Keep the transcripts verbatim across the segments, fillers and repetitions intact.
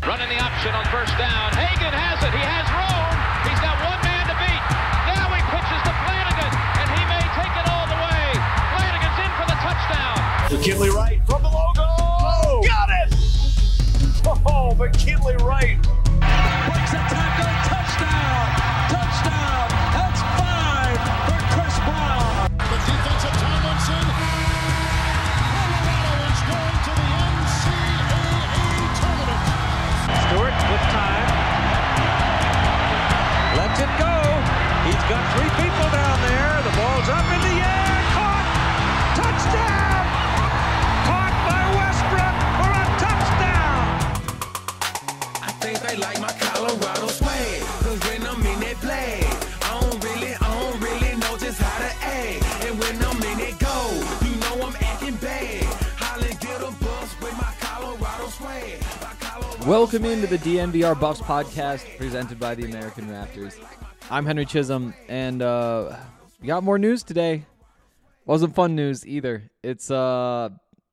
Running the option on first down. Hagan has it. He has room. He's got one man to beat. Now he pitches to Flanagan, and he may take it all the way. Flanagan's in for the touchdown. McKinley Wright from the logo. Oh, got it! Oh, McKinley Wright. Breaks a tackle. Touchdown. Touchdown. That's five for Chris Brown. The defensive Tomlinson. Colorado is going to the N C double A tournament. Stewart with time. Lets it go. He's got three people down there. The ball's up in the air. Caught. Touchdown. Caught by Westbrook for a touchdown. I think they like my Colorado swag. Cause when I'm in that play, I don't really, I don't really know just how to act. And when I'm in it go, you know I'm acting bad. Holly get a bus with my Colorado swag. My Colorado Welcome swag. into the D N V R Buffs podcast presented by the American Raptors. I'm Henry Chisholm, and uh, we got more news today. Wasn't fun news either. It's uh,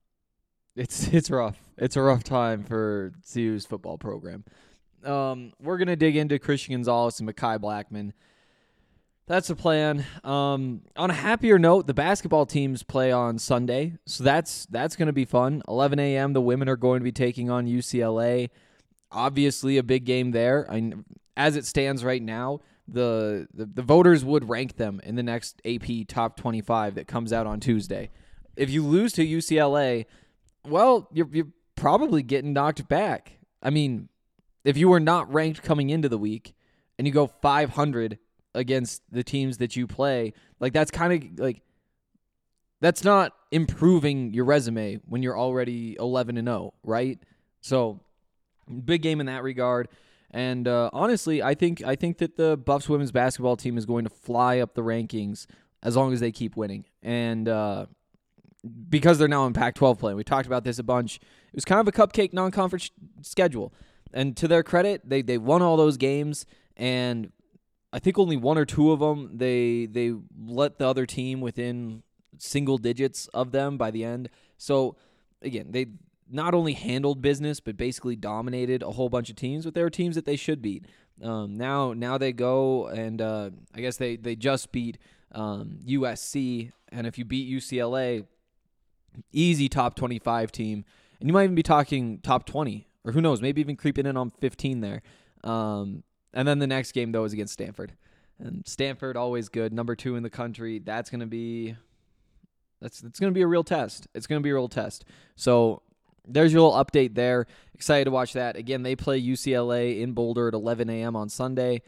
it's it's rough. It's a rough time for C U's football program. Um, we're gonna dig into Christian Gonzalez and Mekhi Blackmon. That's the plan. Um, on a happier note, the basketball teams play on Sunday, so that's that's going to be fun. eleven a.m. The women are going to be taking on U C L A. Obviously, a big game there. I, as it stands right now, the, the the voters would rank them in the next A P Top twenty-five that comes out on Tuesday. If you lose to U C L A, well, you're you're probably getting knocked back. I mean, if you were not ranked coming into the week and you go five hundred against the teams that you play, like that's kind of like that's not improving your resume when you're already eleven and oh, right? So big game in that regard. And uh, honestly, I think I think that the Buffs women's basketball team is going to fly up the rankings as long as they keep winning. And uh, because they're now in Pac twelve play, we talked about this a bunch. It was kind of a cupcake non-conference schedule. And to their credit, they they won all those games, and I think only one or two of them, they they let the other team within single digits of them by the end. So, again, they not only handled business, but basically dominated a whole bunch of teams, but they were teams that they should beat. Um, now now they go, and uh, I guess they, they just beat um, U S C, and if you beat U C L A, easy top twenty-five team, and you might even be talking top twenty, or who knows, maybe even creeping in on fifteen there. Um And then the next game, though, is against Stanford. And Stanford, always good. Number two in the country. That's going to be that's that's going to be a real test. It's going to be a real test. So there's your little update there. Excited to watch that. Again, they play U C L A in Boulder at eleven a.m. on Sunday.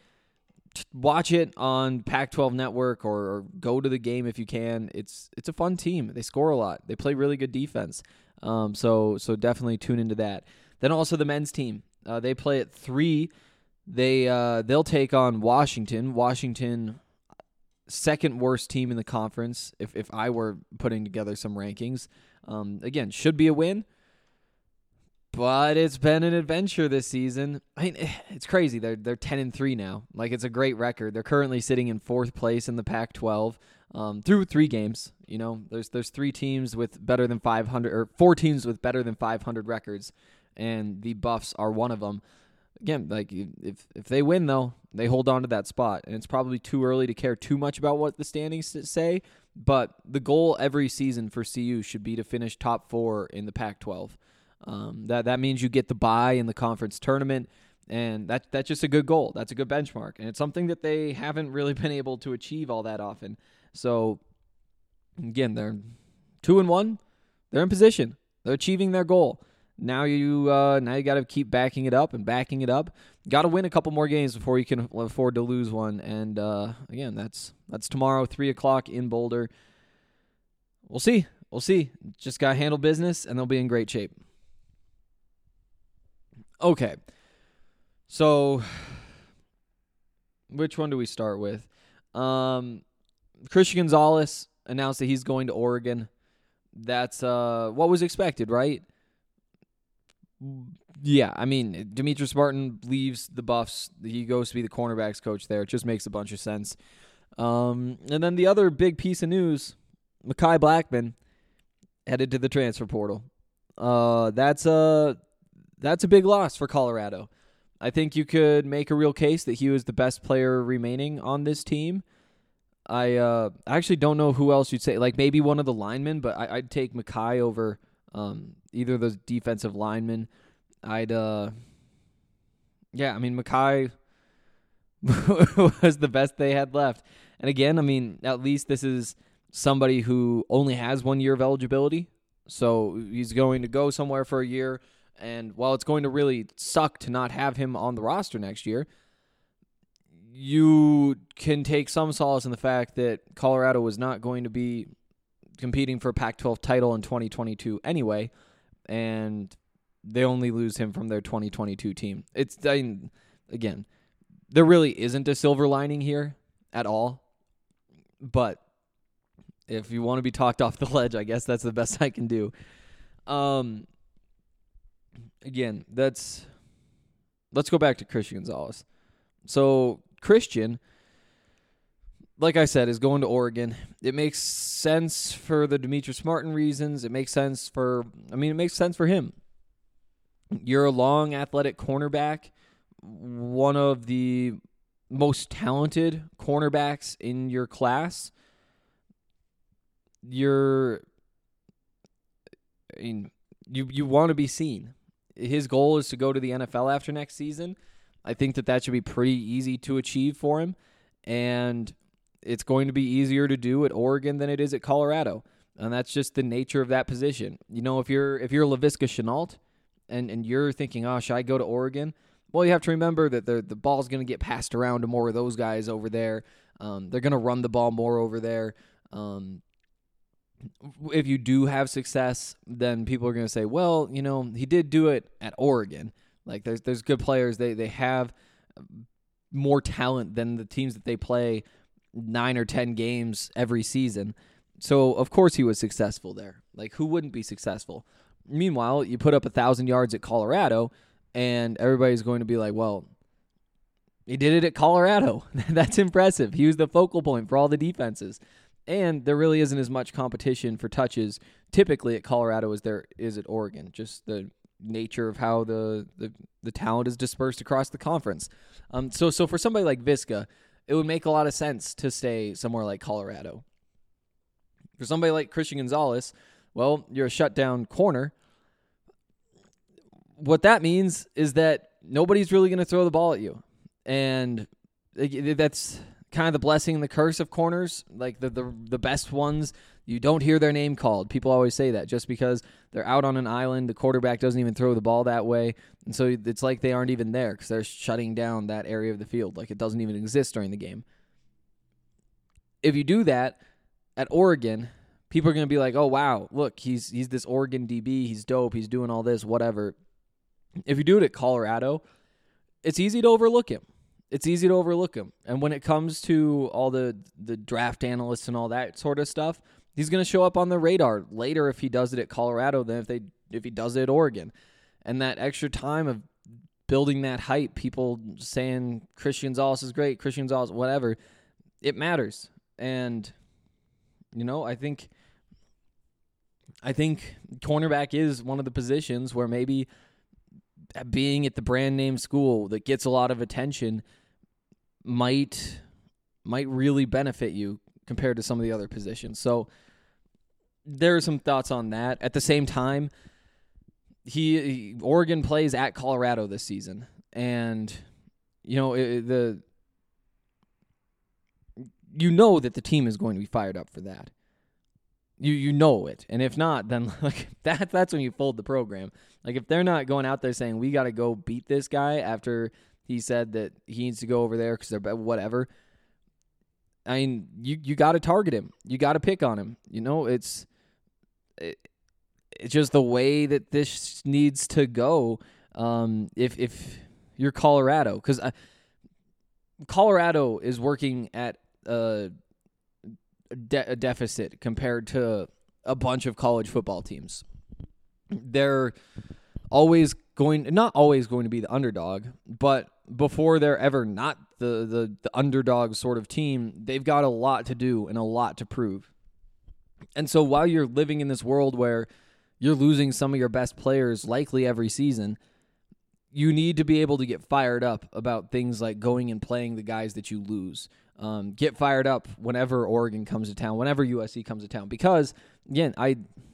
Watch it on Pac twelve Network or, or go to the game if you can. It's it's a fun team. They score a lot. They play really good defense. Um, so so definitely tune into that. Then also the men's team. Uh, they play at three. They uh, they'll take on Washington. Washington, second worst team in the conference. If if I were putting together some rankings, um, again should be a win, but it's been an adventure this season. I mean, it's crazy. They're they're ten and three now. Like it's a great record. They're currently sitting in fourth place in the Pac twelve um, through three games. You know, there's there's three teams with better than five hundred, or four teams with better than five hundred records, and the Buffs are one of them. Again, like if if they win, though, they hold on to that spot. And it's probably too early to care too much about what the standings say. But the goal every season for C U should be to finish top four in the Pac twelve. Um, that that means you get the bye in the conference tournament. And that that's just a good goal. That's a good benchmark. And it's something that they haven't really been able to achieve all that often. So, again, they're two and one. They're in position. They're achieving their goal. Now you uh, now you got to keep backing it up and backing it up. Got to win a couple more games before you can afford to lose one. And uh, again, that's that's tomorrow, three o'clock in Boulder. We'll see. We'll see. Just got to handle business, and they'll be in great shape. Okay. So, which one do we start with? Um, Christian Gonzalez announced that he's going to Oregon. That's uh, what was expected, right? Yeah, I mean, Demetrius Martin leaves the Buffs. He goes to be the cornerbacks coach there. It just makes a bunch of sense. Um, and then the other big piece of news, Mekhi Blackmon headed to the transfer portal. Uh, that's uh, that's a big loss for Colorado. I think you could make a real case that he was the best player remaining on this team. I uh, actually don't know who else you'd say. Like maybe one of the linemen, but I, I'd take Mackay over um, either of those defensive linemen. I'd, uh, yeah, I mean, Mackay was the best they had left. And again, I mean, at least this is somebody who only has one year of eligibility. So he's going to go somewhere for a year. And while it's going to really suck to not have him on the roster next year, you can take some solace in the fact that Colorado was not going to be competing for a Pac twelve title in twenty twenty-two anyway, and they only lose him from their twenty twenty-two team. It's, I mean, again, there really isn't a silver lining here at all, but if you want to be talked off the ledge, I guess that's the best I can do. Um, again, that's let's go back to Christian Gonzalez. So Christian, like I said, is going to Oregon. It makes sense for the Demetrius Martin reasons. It makes sense for, I mean, it makes sense for him. You're a long, athletic cornerback, one of the most talented cornerbacks in your class. You're, I mean, you you want to be seen. His goal is to go to the N F L after next season. I think that that should be pretty easy to achieve for him, and it's going to be easier to do at Oregon than it is at Colorado, and that's just the nature of that position. You know, if you're if you're Laviska Shenault, and and you're thinking, oh, should I go to Oregon? Well, you have to remember that the the ball's going to get passed around to more of those guys over there. Um, they're going to run the ball more over there. Um, if you do have success, then people are going to say, well, you know, he did do it at Oregon. Like there's there's good players. They they have more talent than the teams that they play nine or ten games every season. So of course he was successful there. Like who wouldn't be successful? Meanwhile, you put up a thousand yards at Colorado, and everybody's going to be like, well, he did it at Colorado. That's impressive. He was the focal point for all the defenses. And there really isn't as much competition for touches typically at Colorado as there is at Oregon. Just the nature of how the, the, the talent is dispersed across the conference. Um, so so for somebody like Viska, it would make a lot of sense to stay somewhere like Colorado. For somebody like Christian Gonzalez, well, you're a shutdown corner. What that means is that nobody's really going to throw the ball at you. And that's kind of the blessing and the curse of corners. Like the, the the best ones, you don't hear their name called. People always say that just because they're out on an island, the quarterback doesn't even throw the ball that way. And so it's like they aren't even there because they're shutting down that area of the field. Like it doesn't even exist during the game. If you do that at Oregon, people are going to be like, oh, wow, look, he's he's this Oregon D B. He's dope. He's doing all this, whatever. If you do it at Colorado, it's easy to overlook him. It's easy to overlook him. And when it comes to all the, the draft analysts and all that sort of stuff, he's going to show up on the radar later if he does it at Colorado than if they if he does it at Oregon. And that extra time of building that hype, people saying Christian Gonzalez is great, Christian Gonzalez, whatever, it matters. And, you know, I think I think cornerback is one of the positions where maybe being at the brand name school that gets a lot of attention might might really benefit you compared to some of the other positions. So there are some thoughts on that. At the same time, he, he Oregon plays at Colorado this season, and you know it, the you know that the team is going to be fired up for that. You you know it, and if not, then like that that's when you fold the program. Like if they're not going out there saying we got to go beat this guy after he said that he needs to go over there because they're whatever. I mean, you you got to target him. You got to pick on him. You know, it's it, it's just the way that this needs to go. Um, if if you're Colorado, because Colorado is working at a. De- a deficit compared to a bunch of college football teams. They're always going, not always going to be the underdog, but before they're ever not the, the, the underdog sort of team, they've got a lot to do and a lot to prove. And so while you're living in this world where you're losing some of your best players likely every season, you need to be able to get fired up about things like going and playing the guys that you lose. Um, get fired up whenever Oregon comes to town, whenever U S C comes to town. Because, again, I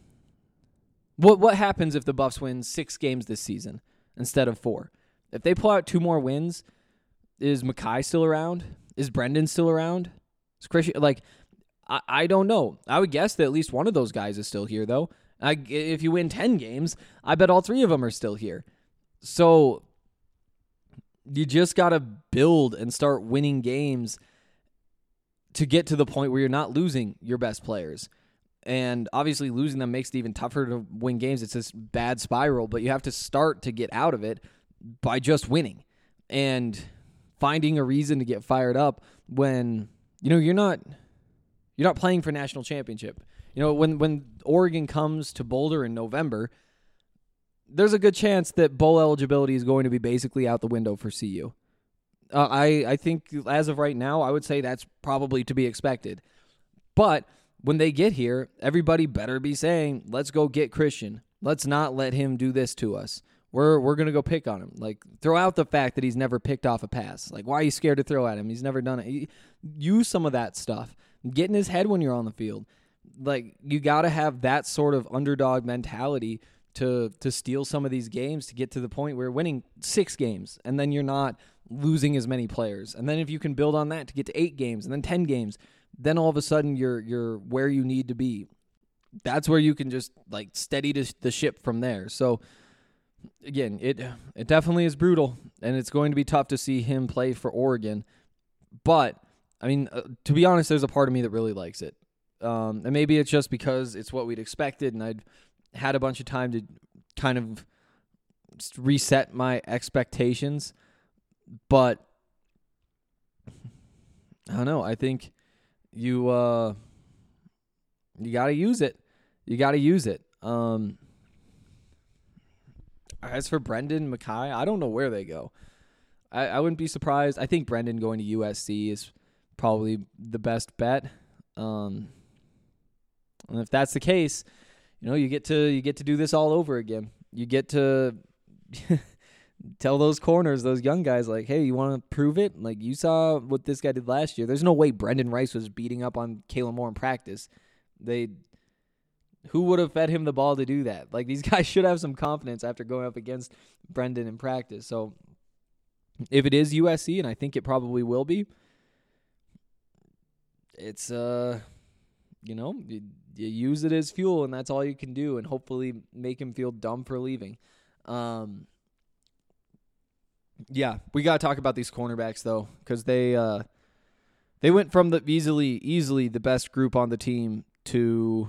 what what happens if the Buffs win six games this season instead of four? If they pull out two more wins, is Mackay still around? Is Brendan still around? Is Christian, like, I, I don't know. I would guess that at least one of those guys is still here, though. I, if you win ten games, I bet all three of them are still here. So you just got to build and start winning games to get to the point where you're not losing your best players. And obviously losing them makes it even tougher to win games. It's this bad spiral, but you have to start to get out of it by just winning and finding a reason to get fired up when, you know, you're not you're not playing for national championship. You know, when when Oregon comes to Boulder in November, there's a good chance that bowl eligibility is going to be basically out the window for C U. Uh, I, I think as of right now, I would say that's probably to be expected. But when they get here, everybody better be saying, let's go get Christian. Let's not let him do this to us. We're we're going to go pick on him. Like, throw out the fact that he's never picked off a pass. Like, why are you scared to throw at him? He's never done it. Use some of that stuff. Get in his head when you're on the field. Like, you got to have that sort of underdog mentality to to steal some of these games to get to the point where you're winning six games and then you're not losing as many players. And then if you can build on that to get to eight games and then ten games, then all of a sudden you're you're where you need to be. That's where you can just like steady the ship from there. So again, it it definitely is brutal, and it's going to be tough to see him play for Oregon. But I mean, uh, to be honest, there's a part of me that really likes it. Um, and maybe it's just because it's what we'd expected, and I'd had a bunch of time to kind of reset my expectations. But I don't know. I think you uh, you got to use it. You got to use it. Um, as for Brendan Mackay, I don't know where they go. I, I wouldn't be surprised. I think Brendan going to U S C is probably the best bet. Um, and if that's the case, you know, you get to you get to do this all over again. You get to tell those corners, those young guys, like, hey, you want to prove it? Like, you saw what this guy did last year. There's no way Brendan Rice was beating up on Kalen Moore in practice. They, who would have fed him the ball to do that? Like, these guys should have some confidence after going up against Brendan in practice. So if it is U S C, and I think it probably will be, it's, uh, you know, you, you use it as fuel, and that's all you can do, and hopefully make him feel dumb for leaving. Um, yeah, we got to talk about these cornerbacks, though, because they uh, they went from the easily easily the best group on the team to,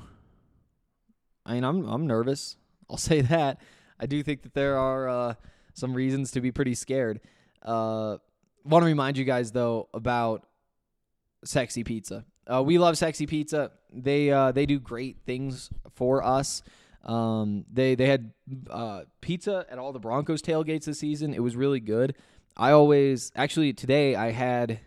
I mean, I'm I'm nervous. I'll say that. I do think that there are uh, some reasons to be pretty scared. Uh, want to remind you guys, though, about Sexy Pizza. Uh, we love Sexy Pizza. They uh, they do great things for us. Um, they they had uh, pizza at all the Broncos tailgates this season. It was really good. I always actually today I had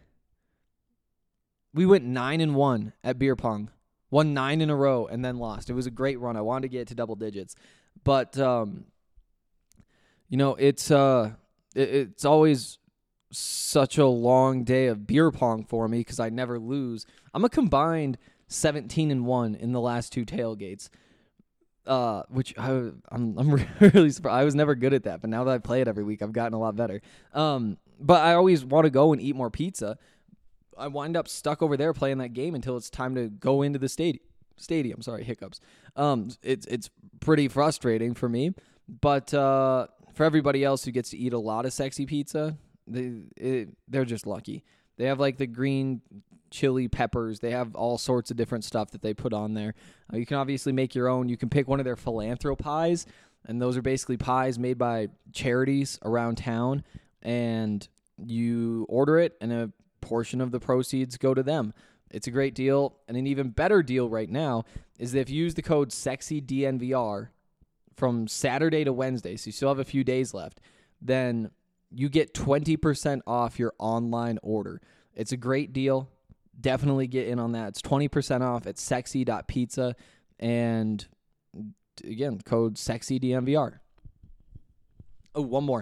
we went nine and one at beer pong, won nine in a row and then lost. It was a great run. I wanted to get to double digits, but um, you know it's uh it, it's always such a long day of beer pong for me because I never lose. I'm a combined seventeen and one in the last two tailgates. Uh, which I, I'm I'm really surprised. I was never good at that, but now that I play it every week, I've gotten a lot better. Um, but I always want to go and eat more pizza. I wind up stuck over there playing that game until it's time to go into the stadium. Stadium, sorry, hiccups. Um, it's it's pretty frustrating for me, but uh, for everybody else who gets to eat a lot of Sexy Pizza, they it, they're just lucky. They have like the green chili peppers. They have all sorts of different stuff that they put on there. Uh, you can obviously make your own. You can pick one of their philanthro pies, and those are basically pies made by charities around town, and you order it, and a portion of the proceeds go to them. It's a great deal, and an even better deal right now is that if you use the code SEXYDNVR from Saturday to Wednesday, so you still have a few days left, then you get twenty percent off your online order. It's a great deal. Definitely get in on that. It's twenty percent off at sexy dot pizza. And again, code SEXYDNVR. Oh, one more.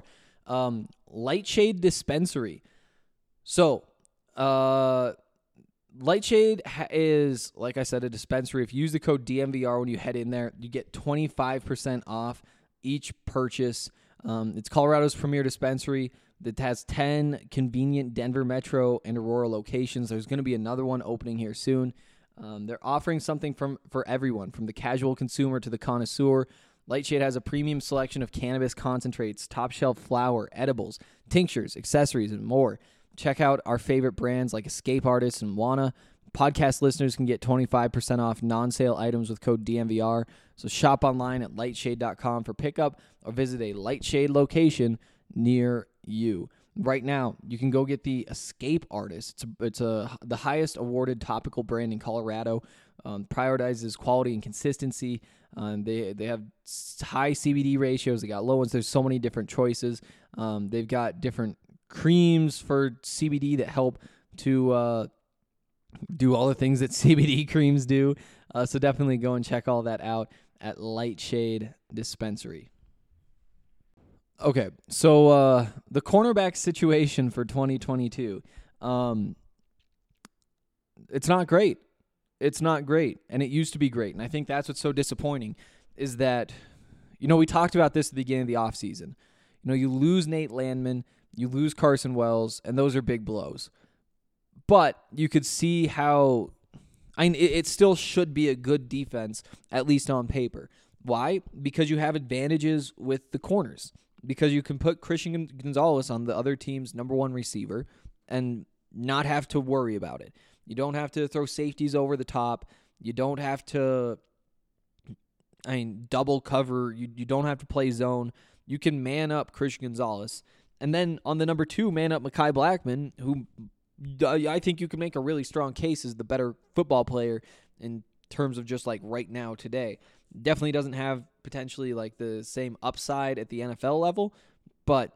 Um, Lightshade Dispensary. So, uh, Lightshade ha- is, like I said, a dispensary. If you use the code D M V R when you head in there, you get twenty-five percent off each purchase. Um, it's Colorado's premier dispensary that has ten convenient Denver Metro and Aurora locations. There's going to be another one opening here soon. Um, they're offering something from for everyone, from the casual consumer to the connoisseur. Lightshade has a premium selection of cannabis concentrates, top-shelf flower, edibles, tinctures, accessories, and more. Check out our favorite brands like Escape Artists and Wana. Podcast listeners can get twenty-five percent off non-sale items with code D M V R. So shop online at lightshade dot com for pickup or visit a Lightshade location near you. Right now, you can go get the Escape Artist. It's a, it's a the highest awarded topical brand in Colorado. Um, prioritizes quality and consistency. Um, they they have high C B D ratios. They got low ones. There's so many different choices. Um, they've got different creams for C B D that help to uh, do all the things that C B D creams do. Uh, so definitely go and check all that out at Lightshade Dispensary. Okay, so uh, the cornerback situation for twenty twenty-two, um, it's not great. It's not great, and it used to be great. And I think that's what's so disappointing is that, you know, we talked about this at the beginning of the offseason. You know, you lose Nate Landman, you lose Carson Wells, and those are big blows. But you could see how I mean, it, it still should be a good defense, at least on paper. Why? Because you have advantages with the corners. Because you can put Christian Gonzalez on the other team's number one receiver and not have to worry about it. You don't have to throw safeties over the top. You don't have to, I mean, double cover. You, you don't have to play zone. You can man up Christian Gonzalez. And then on the number two, man up Mekhi Blackmon, who I think you can make a really strong case as the better football player in terms of just like right now today. Definitely doesn't have potentially like the same upside at the N F L level, but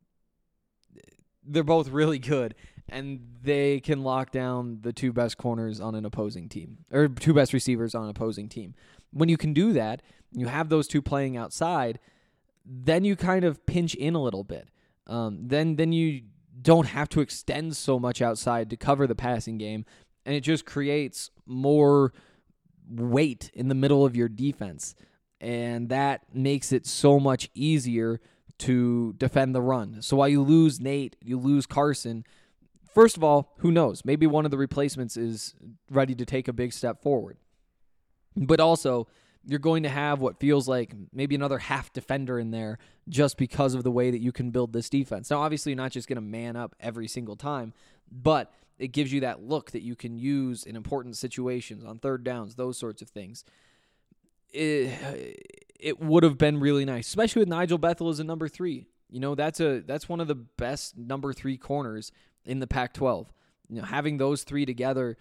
they're both really good, and they can lock down the two best corners on an opposing team, or two best receivers on an opposing team. When you can do that, you have those two playing outside, then you kind of pinch in a little bit. Um, then then you don't have to extend so much outside to cover the passing game, and it just creates more weight in the middle of your defense, and that makes it so much easier to defend the run. So while you lose Nate, you lose Carson, first of all, who knows? Maybe one of the replacements is ready to take a big step forward. But also, you're going to have what feels like maybe another half defender in there just because of the way that you can build this defense. Now, obviously, you're not just going to man up every single time, but it gives you that look that you can use in important situations, on third downs, those sorts of things. It, it would have been really nice, especially with Nigel Bethel as a number three. You know, that's a that's one of the best number three corners in the Pac twelve. You know, having those three together,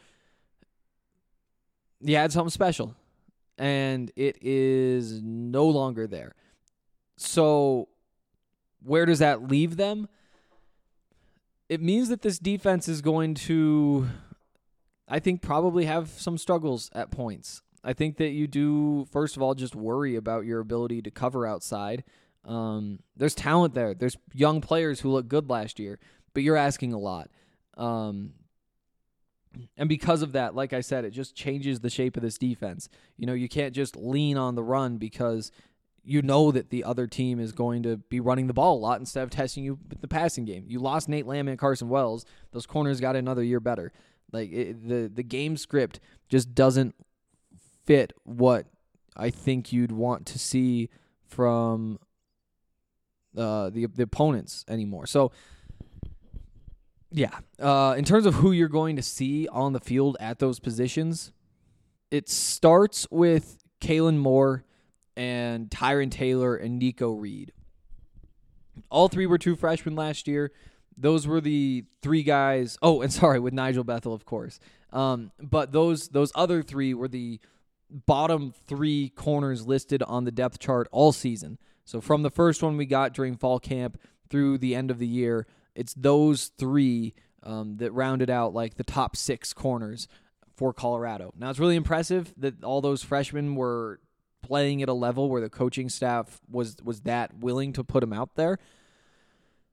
you had something special. And it is no longer there. So where does that leave them? It means that this defense is going to, I think, probably have some struggles at points. I think that you do, first of all, just worry about your ability to cover outside. Um, there's talent there. There's young players who looked good last year, but you're asking a lot. Um, and because of that, like I said, it just changes the shape of this defense. You know, you can't just lean on the run because you know that the other team is going to be running the ball a lot instead of testing you with the passing game. You lost Nate Landman and Carson Wells. Those corners got another year better. Like it, the the game script just doesn't fit what I think you'd want to see from uh, the the opponents anymore. So, yeah, uh, in terms of who you're going to see on the field at those positions, it starts with Kalen Moore and Tyron Taylor and Nico Reed. All three were true freshmen last year. Those were the three guys. Oh, and sorry, with Nigel Bethel, of course. Um, but those those other three were the bottom three corners listed on the depth chart all season. So from the first one we got during fall camp through the end of the year, it's those three um, that rounded out like the top six corners for Colorado. Now, it's really impressive that all those freshmen were playing at a level where the coaching staff was was that willing to put them out there.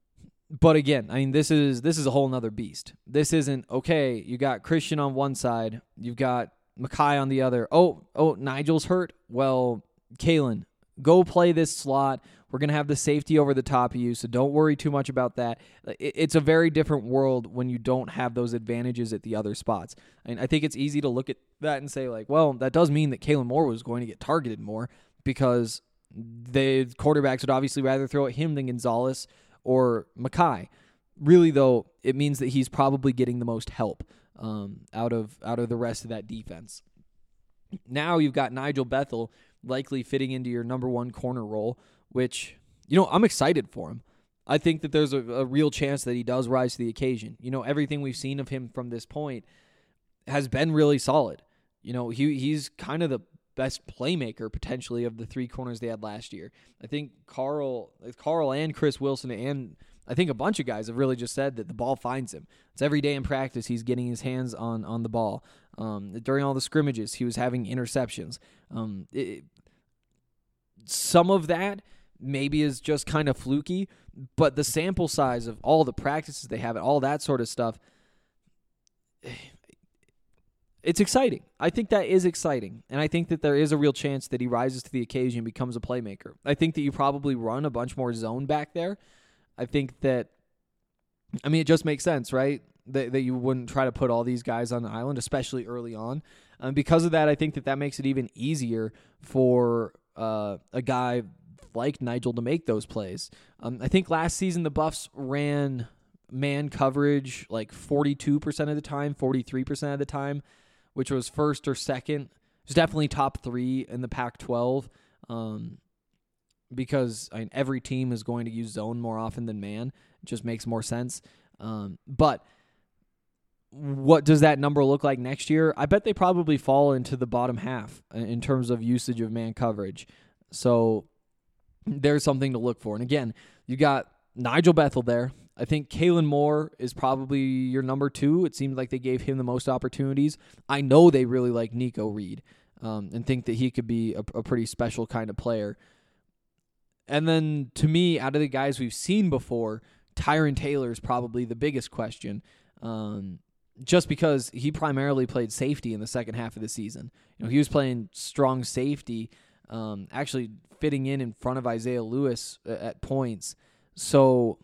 But again, I mean, this is this is a whole nother beast. This isn't, okay, you got Christian on one side, you've got Mekhi on the other. Oh, oh, Nigel's hurt? Well, Kalen, go play this slot. We're going to have the safety over the top of you, so don't worry too much about that. It's a very different world when you don't have those advantages at the other spots. And I think it's easy to look at that and say, like, well, that does mean that Kalen Moore was going to get targeted more because the quarterbacks would obviously rather throw at him than Gonzalez or Mekhi. Really, though, it means that he's probably getting the most help um, out of out of the rest of that defense. Now you've got Nigel Bethel likely fitting into your number one corner role, which, you know, I'm excited for him. I think that there's a, a real chance that he does rise to the occasion. You know, everything we've seen of him from this point has been really solid. You know, he he's kind of the best playmaker potentially of the three corners they had last year. I think Carl, Carl and Chris Wilson and I think a bunch of guys have really just said that the ball finds him. It's every day in practice he's getting his hands on on the ball. Um, during all the scrimmages, he was having interceptions. Um, it, some of that maybe is just kind of fluky, but the sample size of all the practices they have and all that sort of stuff, it's exciting. I think that is exciting, and I think that there is a real chance that he rises to the occasion and becomes a playmaker. I think that you probably run a bunch more zone back there. I think that, I mean, it just makes sense, right, that, that you wouldn't try to put all these guys on the island, especially early on. Um, because of that, I think that that makes it even easier for uh, a guy like Nigel to make those plays. Um, I think last season the Buffs ran man coverage like forty-two percent of the time, forty-three percent of the time, which was first or second. It was definitely top three in the Pac twelve um, because I mean, every team is going to use zone more often than man. It just makes more sense. Um, but what does that number look like next year? I bet they probably fall into the bottom half in terms of usage of man coverage. So there's something to look for. And again, you got Nigel Bethel there. I think Kalen Moore is probably your number two. It seemed like they gave him the most opportunities. I know they really like Nico Reed um, and think that he could be a, a pretty special kind of player. And then, to me, out of the guys we've seen before, Tyron Taylor is probably the biggest question, um, just because he primarily played safety in the second half of the season. You know, he was playing strong safety, um, actually fitting in in front of Isaiah Lewis at points. So,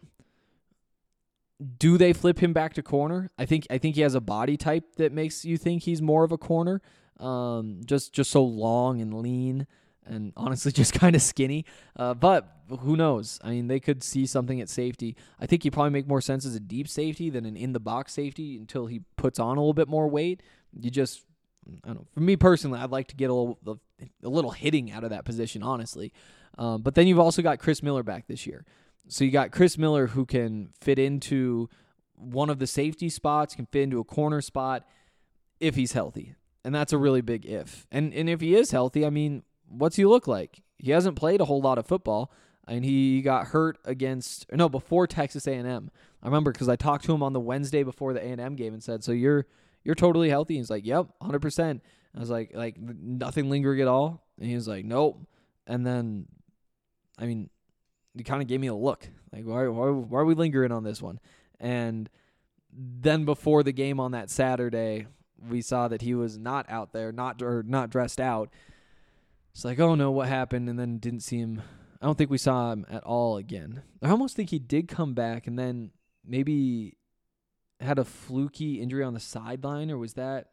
do they flip him back to corner? I think I think he has a body type that makes you think he's more of a corner, um, just just so long and lean. And honestly, just kind of skinny. Uh, but who knows? I mean, they could see something at safety. I think he'd probably make more sense as a deep safety than an in-the-box safety until he puts on a little bit more weight. You just, I don't know. For me personally, I'd like to get a little, a little hitting out of that position, honestly. Um, but then you've also got Chris Miller back this year. So you got Chris Miller who can fit into one of the safety spots, can fit into a corner spot if he's healthy. And that's a really big if. And and if he is healthy, I mean, what's he look like? He hasn't played a whole lot of football, and he got hurt against no before Texas A and M. I remember because I talked to him on the Wednesday before the A and M game and said, "So you're you're totally healthy?" And he's like, "Yep, one hundred percent." I was like, "Like nothing lingering at all?" And he was like, "Nope." And then, I mean, he kind of gave me a look like, "Why why why are we lingering on this one?" And then before the game on that Saturday, we saw that he was not out there, not or not dressed out. It's like, oh no, what happened? And then didn't see him. I don't think we saw him at all again. I almost think he did come back and then maybe had a fluky injury on the sideline, or was that?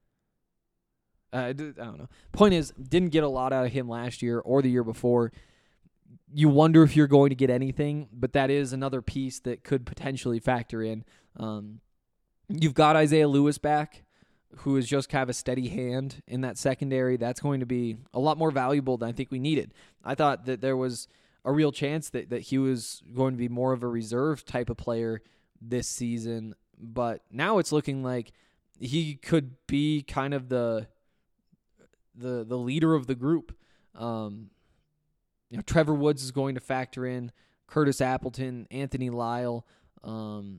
Uh, I don't know. Point is, didn't get a lot out of him last year or the year before. You wonder if you're going to get anything, but that is another piece that could potentially factor in. Um, you've got Isaiah Lewis back, who is just kind of a steady hand in that secondary. That's going to be a lot more valuable than I think we needed. I thought that there was a real chance that, that he was going to be more of a reserve type of player this season, but now it's looking like he could be kind of the the the leader of the group. Um, you know, Trevor Woods is going to factor in, Curtis Appleton, Anthony Lyle. Um,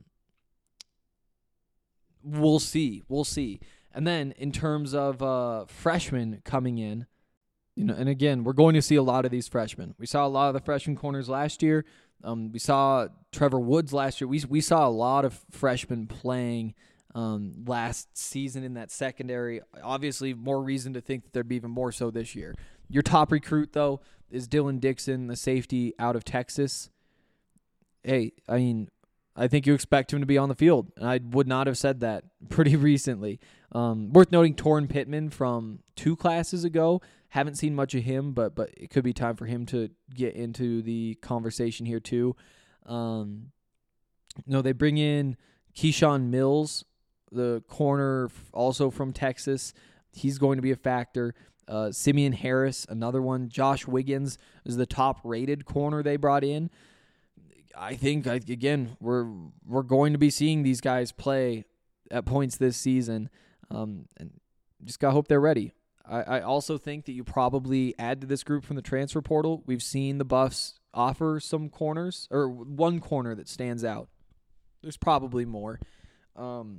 we'll see. We'll see. And then in terms of uh, freshmen coming in, you know, and again, we're going to see a lot of these freshmen. We saw a lot of the freshman corners last year. Um, we saw Trevor Woods last year. We we saw a lot of freshmen playing um, last season in that secondary. Obviously, more reason to think that there'd be even more so this year. Your top recruit, though, is Dylan Dixon, the safety out of Texas. Hey, I mean, I think you expect him to be on the field. And I would not have said that pretty recently. Um, worth noting, Torrin Pittman from two classes ago. Haven't seen much of him, but but it could be time for him to get into the conversation here too. Um, no, they bring in Keyshawn Mills, the corner, also from Texas. He's going to be a factor. Uh, Simeon Harris, another one. Josh Wiggins is the top-rated corner they brought in. I think, again, we're we're going to be seeing these guys play at points this season, um, and just got to hope they're ready. I, I also think that you probably add to this group from the transfer portal. We've seen the Buffs offer some corners, or one corner that stands out. There's probably more. Um,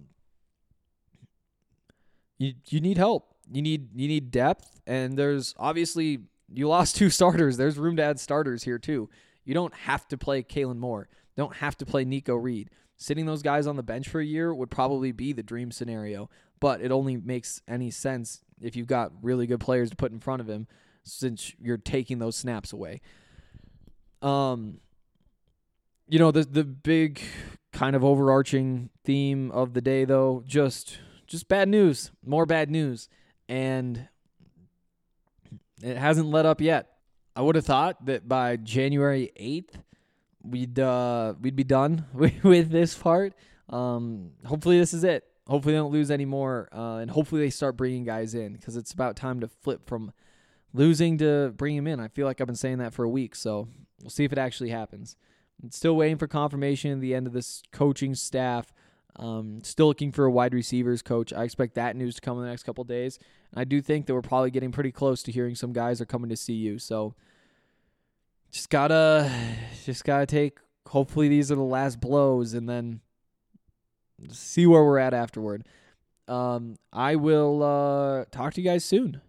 you you need help. You need you need depth, and there's obviously you lost two starters. There's room to add starters here too. You don't have to play Kalen Moore. Don't have to play Nico Reed. Sitting those guys on the bench for a year would probably be the dream scenario, but it only makes any sense if you've got really good players to put in front of him, since you're taking those snaps away. Um, you know, the the big kind of overarching theme of the day, though, just just bad news, more bad news, and it hasn't let up yet. I would have thought that by January eighth, we'd uh, we'd be done with, with this part. Um, hopefully this is it. Hopefully they don't lose any more, uh, and hopefully they start bringing guys in, because it's about time to flip from losing to bringing them in. I feel like I've been saying that for a week, so we'll see if it actually happens. I'm still waiting for confirmation at the end of this coaching staff. Um, still looking for a wide receivers coach. I expect that news to come in the next couple of days. And I do think that we're probably getting pretty close to hearing some guys are coming to C U. So just gotta, just gotta take. Hopefully these are the last blows, and then see where we're at afterward. Um, I will uh, talk to you guys soon.